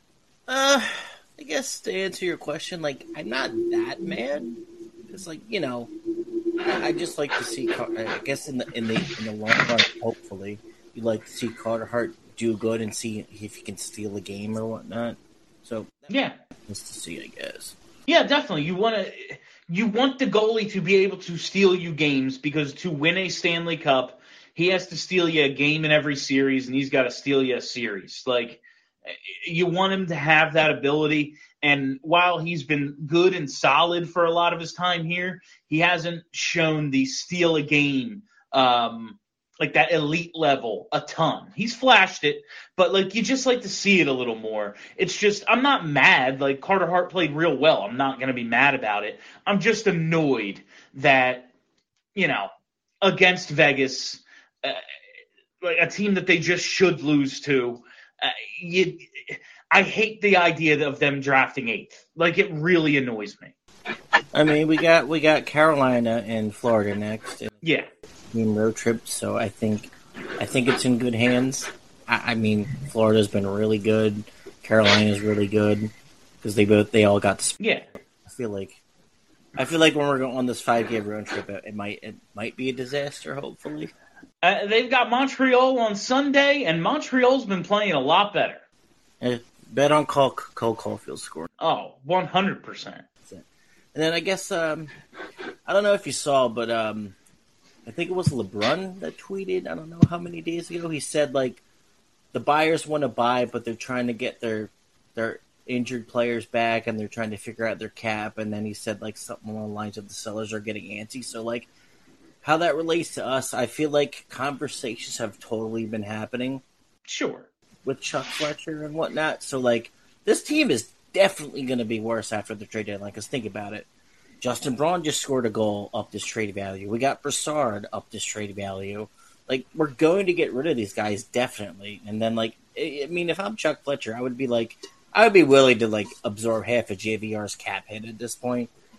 I guess to answer your question, I'm not that mad because, I just like to see. I guess in the long run, hopefully, you like to see Carter Hart do good and see if he can steal a game or whatnot. So yeah, nice to see, I guess. Yeah, definitely. You want the goalie to be able to steal you games, because to win a Stanley Cup, he has to steal you a game in every series, and he's got to steal you a series. You want him to have that ability, and while he's been good and solid for a lot of his time here, he hasn't shown the steal a game, that elite level a ton. He's flashed it, but you just like to see it a little more. It's just, I'm not mad. Carter Hart played real well. I'm not going to be mad about it. I'm just annoyed that, against Vegas, a team that they just should lose to, I hate the idea of them drafting 8th. It really annoys me. I mean, we got Carolina and Florida next. Yeah. Road trip, so I think it's in good hands. I mean, Florida's been really good. Carolina's really good because they all got. Yeah. I feel like when we're going on this 5-game road trip, it might be a disaster. Hopefully. They've got Montreal on Sunday, and Montreal's been playing a lot better. Bet on Cole Caulfield scoring. Oh, 100%. And then I guess I don't know if you saw, but I think it was LeBron that tweeted, I don't know how many days ago, he said, the buyers want to buy, but they're trying to get their injured players back, and they're trying to figure out their cap, and then he said, something along the lines of the sellers are getting antsy. So, how that relates to us, I feel like conversations have totally been happening. Sure. With Chuck Fletcher and whatnot. So, this team is definitely going to be worse after the trade deadline, because think about it. Justin Braun just scored a goal up this trade value. We got Brassard up this trade value. We're going to get rid of these guys, definitely. And then, if I'm Chuck Fletcher, I would be willing to, absorb half of JVR's cap hit at this point.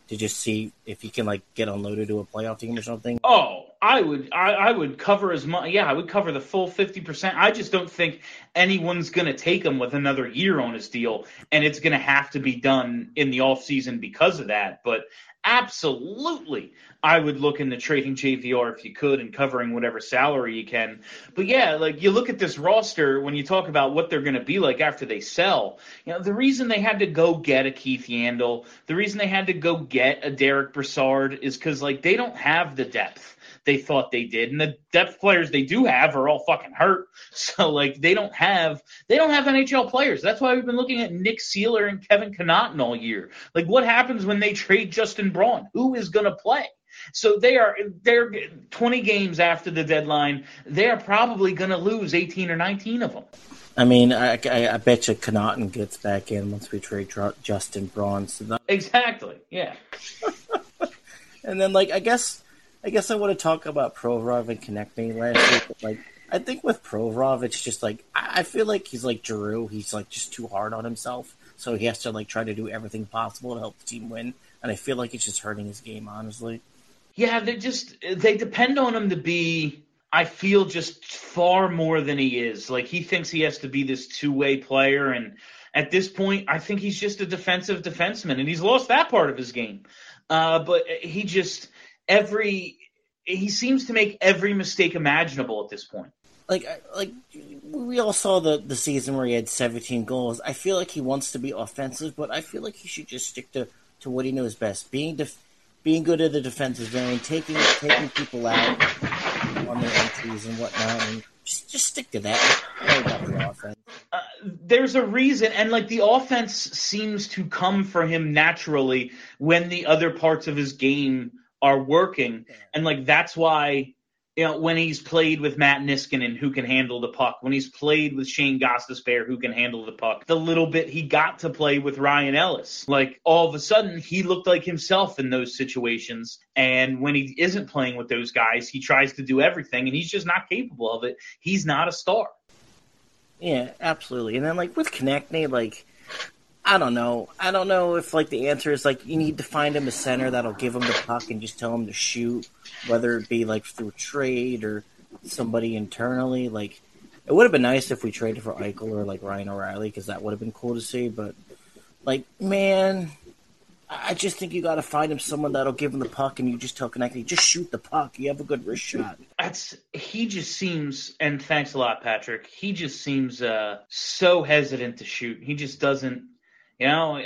to just see if he can like get unloaded to a playoff team or something? Oh, I would cover as much. Yeah, I would cover the full 50%. I just don't think anyone's going to take him with another year on his deal, and it's going to have to be done in the offseason because of that. But absolutely, I would look into trading JVR if you could and covering whatever salary you can. But yeah, like you look at this roster when you talk about what they're going to be like after they sell. You know, the reason they had to go get a Keith Yandel, the reason they had to go get a Derek Brassard is because like they don't have the depth they thought they did, and the depth players they do have are all fucking hurt. So like they don't have NHL players. That's why we've been looking at Nick Seeler and Kevin Connaughton all year. Like what happens when they trade Justin Braun? Who is going to play? So they're 20 games after the deadline. They are probably going to lose 18 or 19 of them. I mean, I bet you Connaughton gets back in once we trade Justin Braun. So exactly, yeah. And then, like, I guess I want to talk about Provorov and Konechny last week. But, like, I think with Provorov, it's just like I feel like he's like Giroux. He's like just too hard on himself, so he has to like try to do everything possible to help the team win. And I feel like it's just hurting his game, honestly. Yeah, they depend on him to be, I feel, just far more than he is. Like he thinks he has to be this two-way player, and at this point, I think he's just a defensive defenseman, and he's lost that part of his game. But he seems to make every mistake imaginable at this point. Like we all saw the season where he had 17 goals. I feel like he wants to be offensive, but I feel like he should just stick to what he knows best: being good at the defensive zone, taking people out on their entries and whatnot, and just stick to that. About the offense. There's a reason, and like the offense seems to come for him naturally when the other parts of his game are working, and like that's why, you know, when he's played with Matt Niskanen, who can handle the puck, when he's played with Shane Gostisbehere, who can handle the puck, the little bit he got to play with Ryan Ellis, like all of a sudden he looked like himself in those situations. And when he isn't playing with those guys, he tries to do everything, and he's just not capable of it. He's not a star. Yeah, absolutely. And then like with Konechny, like I don't know if like the answer is like you need to find him a center that'll give him the puck and just tell him to shoot, whether it be like through a trade or somebody internally. Like it would have been nice if we traded for Eichel or like Ryan O'Reilly, because that would have been cool to see. But like, man, I just think you got to find him someone that'll give him the puck, and you just tell Konechny, just shoot the puck. You have a good wrist shot. He just seems, and thanks a lot, Patrick. He just seems so hesitant to shoot. He just doesn't. You know,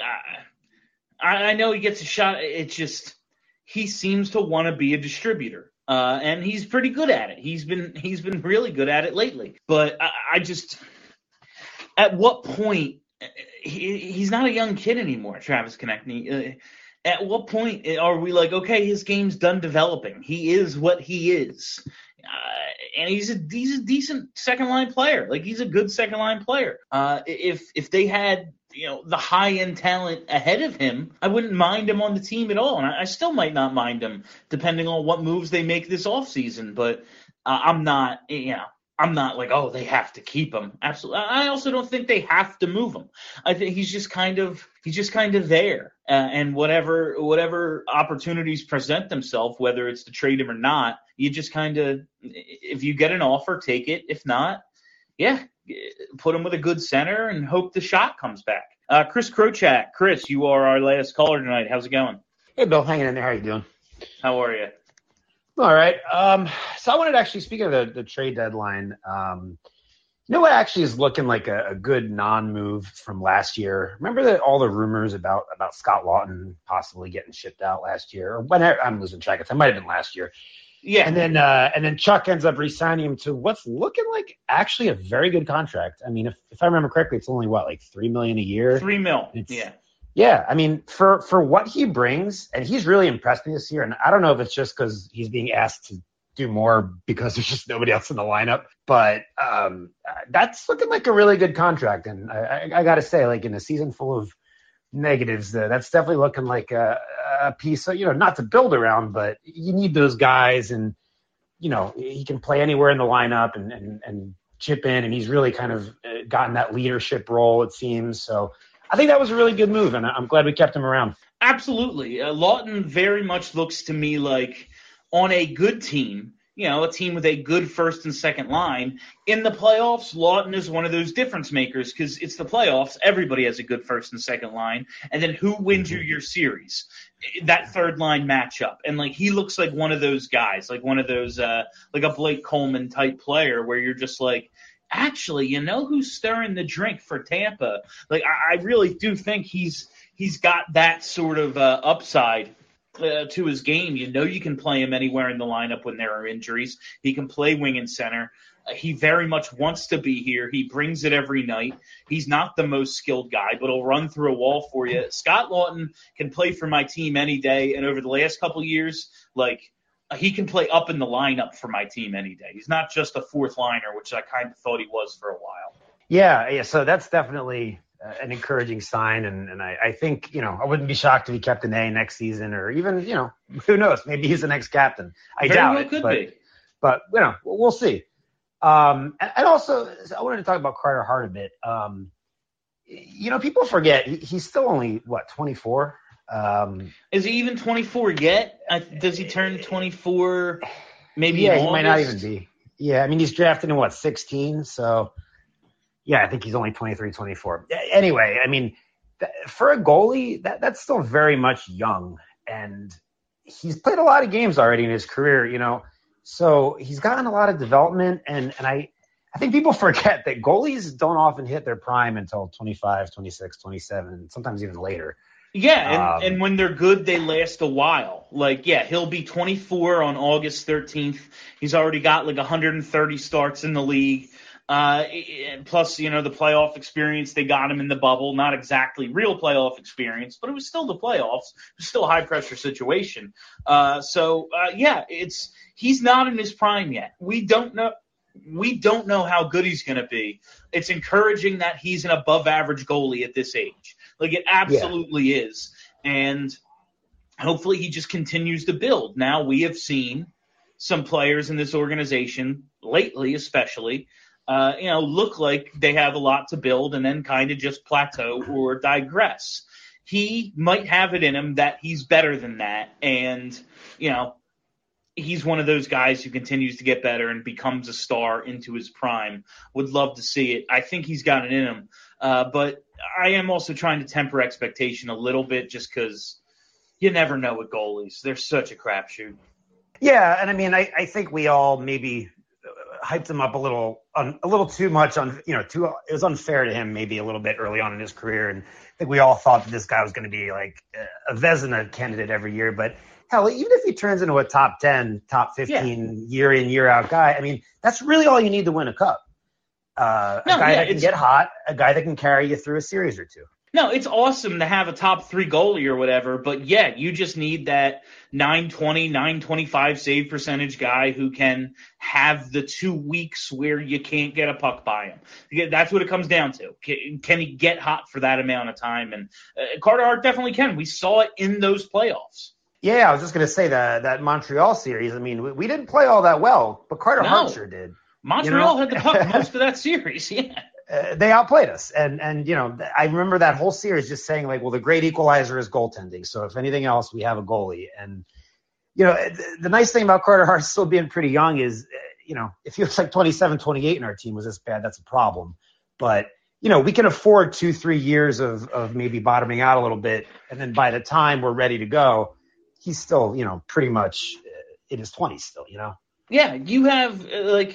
I know he gets a shot. It's just he seems to want to be a distributor, and he's pretty good at it. He's been really good at it lately. But I just, at what point, he's not a young kid anymore, Travis Konechny. At what point are we like, okay, his game's done developing. He is what he is. And he's a decent second line player. Like he's a good second line player. If they had, you know, the high end talent ahead of him, I wouldn't mind him on the team at all. And I still might not mind him depending on what moves they make this offseason. But I'm not like, oh, they have to keep him. Absolutely. I also don't think they have to move him. I think he's just kind of there. And whatever opportunities present themselves, whether it's to trade him or not, you just kind of, if you get an offer, take it. If not, yeah, put him with a good center and hope the shot comes back. Chris Krochat. Chris, you are our last caller tonight. How's it going? Hey, Bill. Hanging in there. How you doing? How are you? All right. So I wanted to actually, speaking of the trade deadline, you know what actually is looking like a good non-move from last year? Remember all the rumors about Scott Lawton possibly getting shipped out last year? Or whenever, I'm losing track of time. It might have been last year. Yeah. And then Chuck ends up re-signing him to what's looking like actually a very good contract. I mean, if I remember correctly, it's only like $3 million a year. $3 million. Yeah. Yeah, I mean, for what he brings, and he's really impressed me this year, and I don't know if it's just because he's being asked to do more because there's just nobody else in the lineup, but that's looking like a really good contract. And I got to say, like in a season full of negatives, that's definitely looking like a piece of, not to build around, but you need those guys, and, he can play anywhere in the lineup and chip in, and he's really kind of gotten that leadership role, it seems. So I think that was a really good move, and I'm glad we kept him around. Absolutely. Lawton very much looks to me like on a good team, a team with a good first and second line. In the playoffs, Lawton is one of those difference makers because it's the playoffs. Everybody has a good first and second line. And then who wins you your series? That third line matchup. And he looks like one of those guys, like one of those, like a Blake Coleman type player where you're just like, actually, who's stirring the drink for Tampa? I really do think he's got that sort of upside to his game. You can play him anywhere in the lineup when there are injuries. He can play wing and center. He very much wants to be here. He brings it every night. He's not the most skilled guy, but he'll run through a wall for you. Scott Lawton can play for my team any day, and over the last couple of years, he can play up in the lineup for my team any day. He's not just a fourth liner, which I kind of thought he was for a while. Yeah. So that's definitely an encouraging sign. And I think, I wouldn't be shocked if he kept an A next season, or even, who knows, maybe he's the next captain. I doubt it. Could be. But, we'll see. And also, I wanted to talk about Carter Hart a bit. People forget he's still only, 24? Is he even 24 yet? Does he turn 24 maybe in August? He might not even be. Yeah, I mean, he's drafted in 16? So, yeah, I think he's only 23, 24. Anyway, I mean, for a goalie, that's still very much young. And he's played a lot of games already in his career, So he's gotten a lot of development. And I think people forget that goalies don't often hit their prime until 25, 26, 27, sometimes even later. Yeah, and when they're good, they last a while. He'll be 24 on August 13th. He's already got 130 starts in the league. Plus, the playoff experience, they got him in the bubble. Not exactly real playoff experience, but it was still the playoffs. It was still a high-pressure situation. He's not in his prime yet. We don't know how good he's going to be. It's encouraging that he's an above-average goalie at this age. It absolutely is. And hopefully he just continues to build. Now, we have seen some players in this organization, lately especially, look like they have a lot to build and then kind of just plateau or digress. He might have it in him that he's better than that. And, he's one of those guys who continues to get better and becomes a star into his prime. Would love to see it. I think he's got it in him. But I am also trying to temper expectation a little bit just because you never know with goalies. They're such a crapshoot. Yeah, and I mean, I think we all maybe hyped him up a little too much it was unfair to him maybe a little bit early on in his career. And I think we all thought that this guy was going to be a Vezina candidate every year. But hell, even if he turns into a top 10, top 15 year in, year out guy, I mean, that's really all you need to win a cup. A guy that can get hot, a guy that can carry you through a series or two. No, it's awesome to have a top 3 goalie or whatever, but you just need that 920, 925 save percentage guy who can have the 2 weeks where you can't get a puck by him. That's what it comes down to. Can he get hot for that amount of time? And Carter Hart definitely can. We saw it in those playoffs. Yeah, I was just going to say that Montreal series. I mean, we didn't play all that well, but Carter Hart sure did. Montreal had the puck most of that series, They outplayed us. And I remember that whole series just saying, the great equalizer is goaltending. So if anything else, we have a goalie. And, the nice thing about Carter Hart still being pretty young is, if he was 27, 28 and our team was this bad, that's a problem. But, we can afford 2-3 years of maybe bottoming out a little bit. And then by the time we're ready to go, he's still, pretty much in his 20s still, Yeah, you have,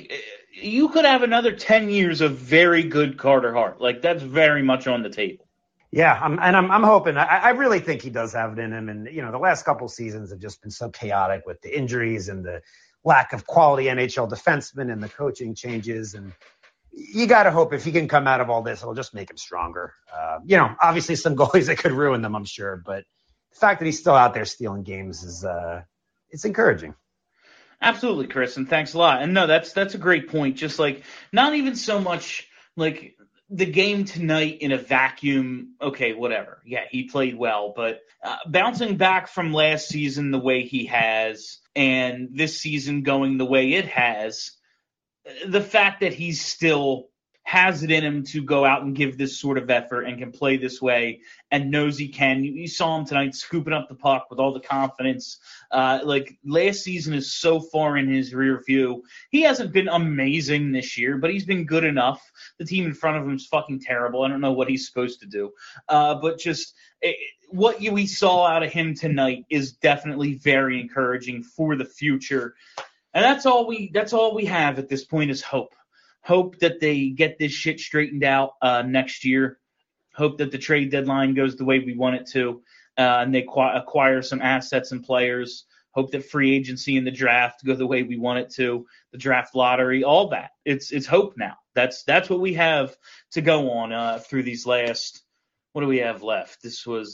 you could have another 10 years of very good Carter Hart. That's very much on the table. Yeah, I'm hoping. I really think he does have it in him. And, the last couple seasons have just been so chaotic with the injuries and the lack of quality NHL defensemen and the coaching changes. And you got to hope if he can come out of all this, it'll just make him stronger. Obviously some goalies that could ruin them, I'm sure. But the fact that he's still out there stealing games is it's encouraging. Absolutely, Chris, and thanks a lot. And no, that's a great point. Just not even so much the game tonight in a vacuum. Okay, whatever. Yeah, he played well, but bouncing back from last season the way he has, and this season going the way it has, the fact that he's still has it in him to go out and give this sort of effort and can play this way and knows he can. You saw him tonight scooping up the puck with all the confidence. Like last season is so far in his rear view. He hasn't been amazing this year, but he's been good enough. The team in front of him is fucking terrible. I don't know what he's supposed to do. But just what we saw out of him tonight is definitely very encouraging for the future. And that's all we have at this point is hope. Hope that they get this shit straightened out next year. Hope that the trade deadline goes the way we want it to, and they acquire some assets and players. Hope that free agency and the draft go the way we want it to. The draft lottery, all that. It's hope now. That's what we have to go on through these last. What do we have left? This was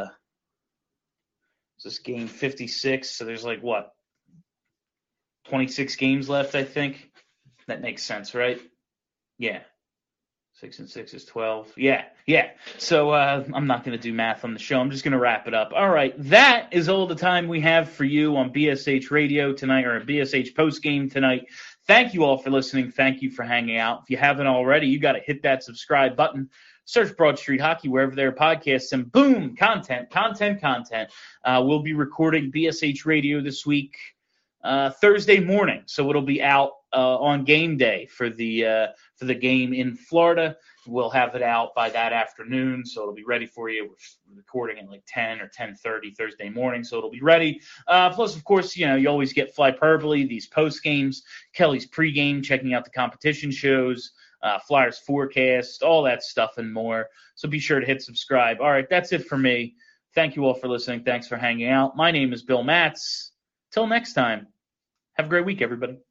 this game 56. So there's 26 games left, I think. That makes sense, right? Yeah. 6 and 6 is 12. Yeah. So I'm not going to do math on the show. I'm just going to wrap it up. All right. That is all the time we have for you on BSH Radio tonight, or BSH Postgame tonight. Thank you all for listening. Thank you for hanging out. If you haven't already, you got to hit that subscribe button. Search Broad Street Hockey wherever there are podcasts, and boom, content. We'll be recording BSH Radio this week, Thursday morning, so it'll be out on game day for the game in Florida. We'll have it out by that afternoon, so it'll be ready for you. We're recording at 10 or 10:30 Thursday morning, so it'll be ready. Plus, of course, you always get Flyperbole, these post games, Kelly's pregame, checking out the competition shows, Flyers forecast, all that stuff and more. So be sure to hit subscribe. All right, that's it for me. Thank you all for listening. Thanks for hanging out. My name is Bill Matz. Till next time, have a great week, everybody.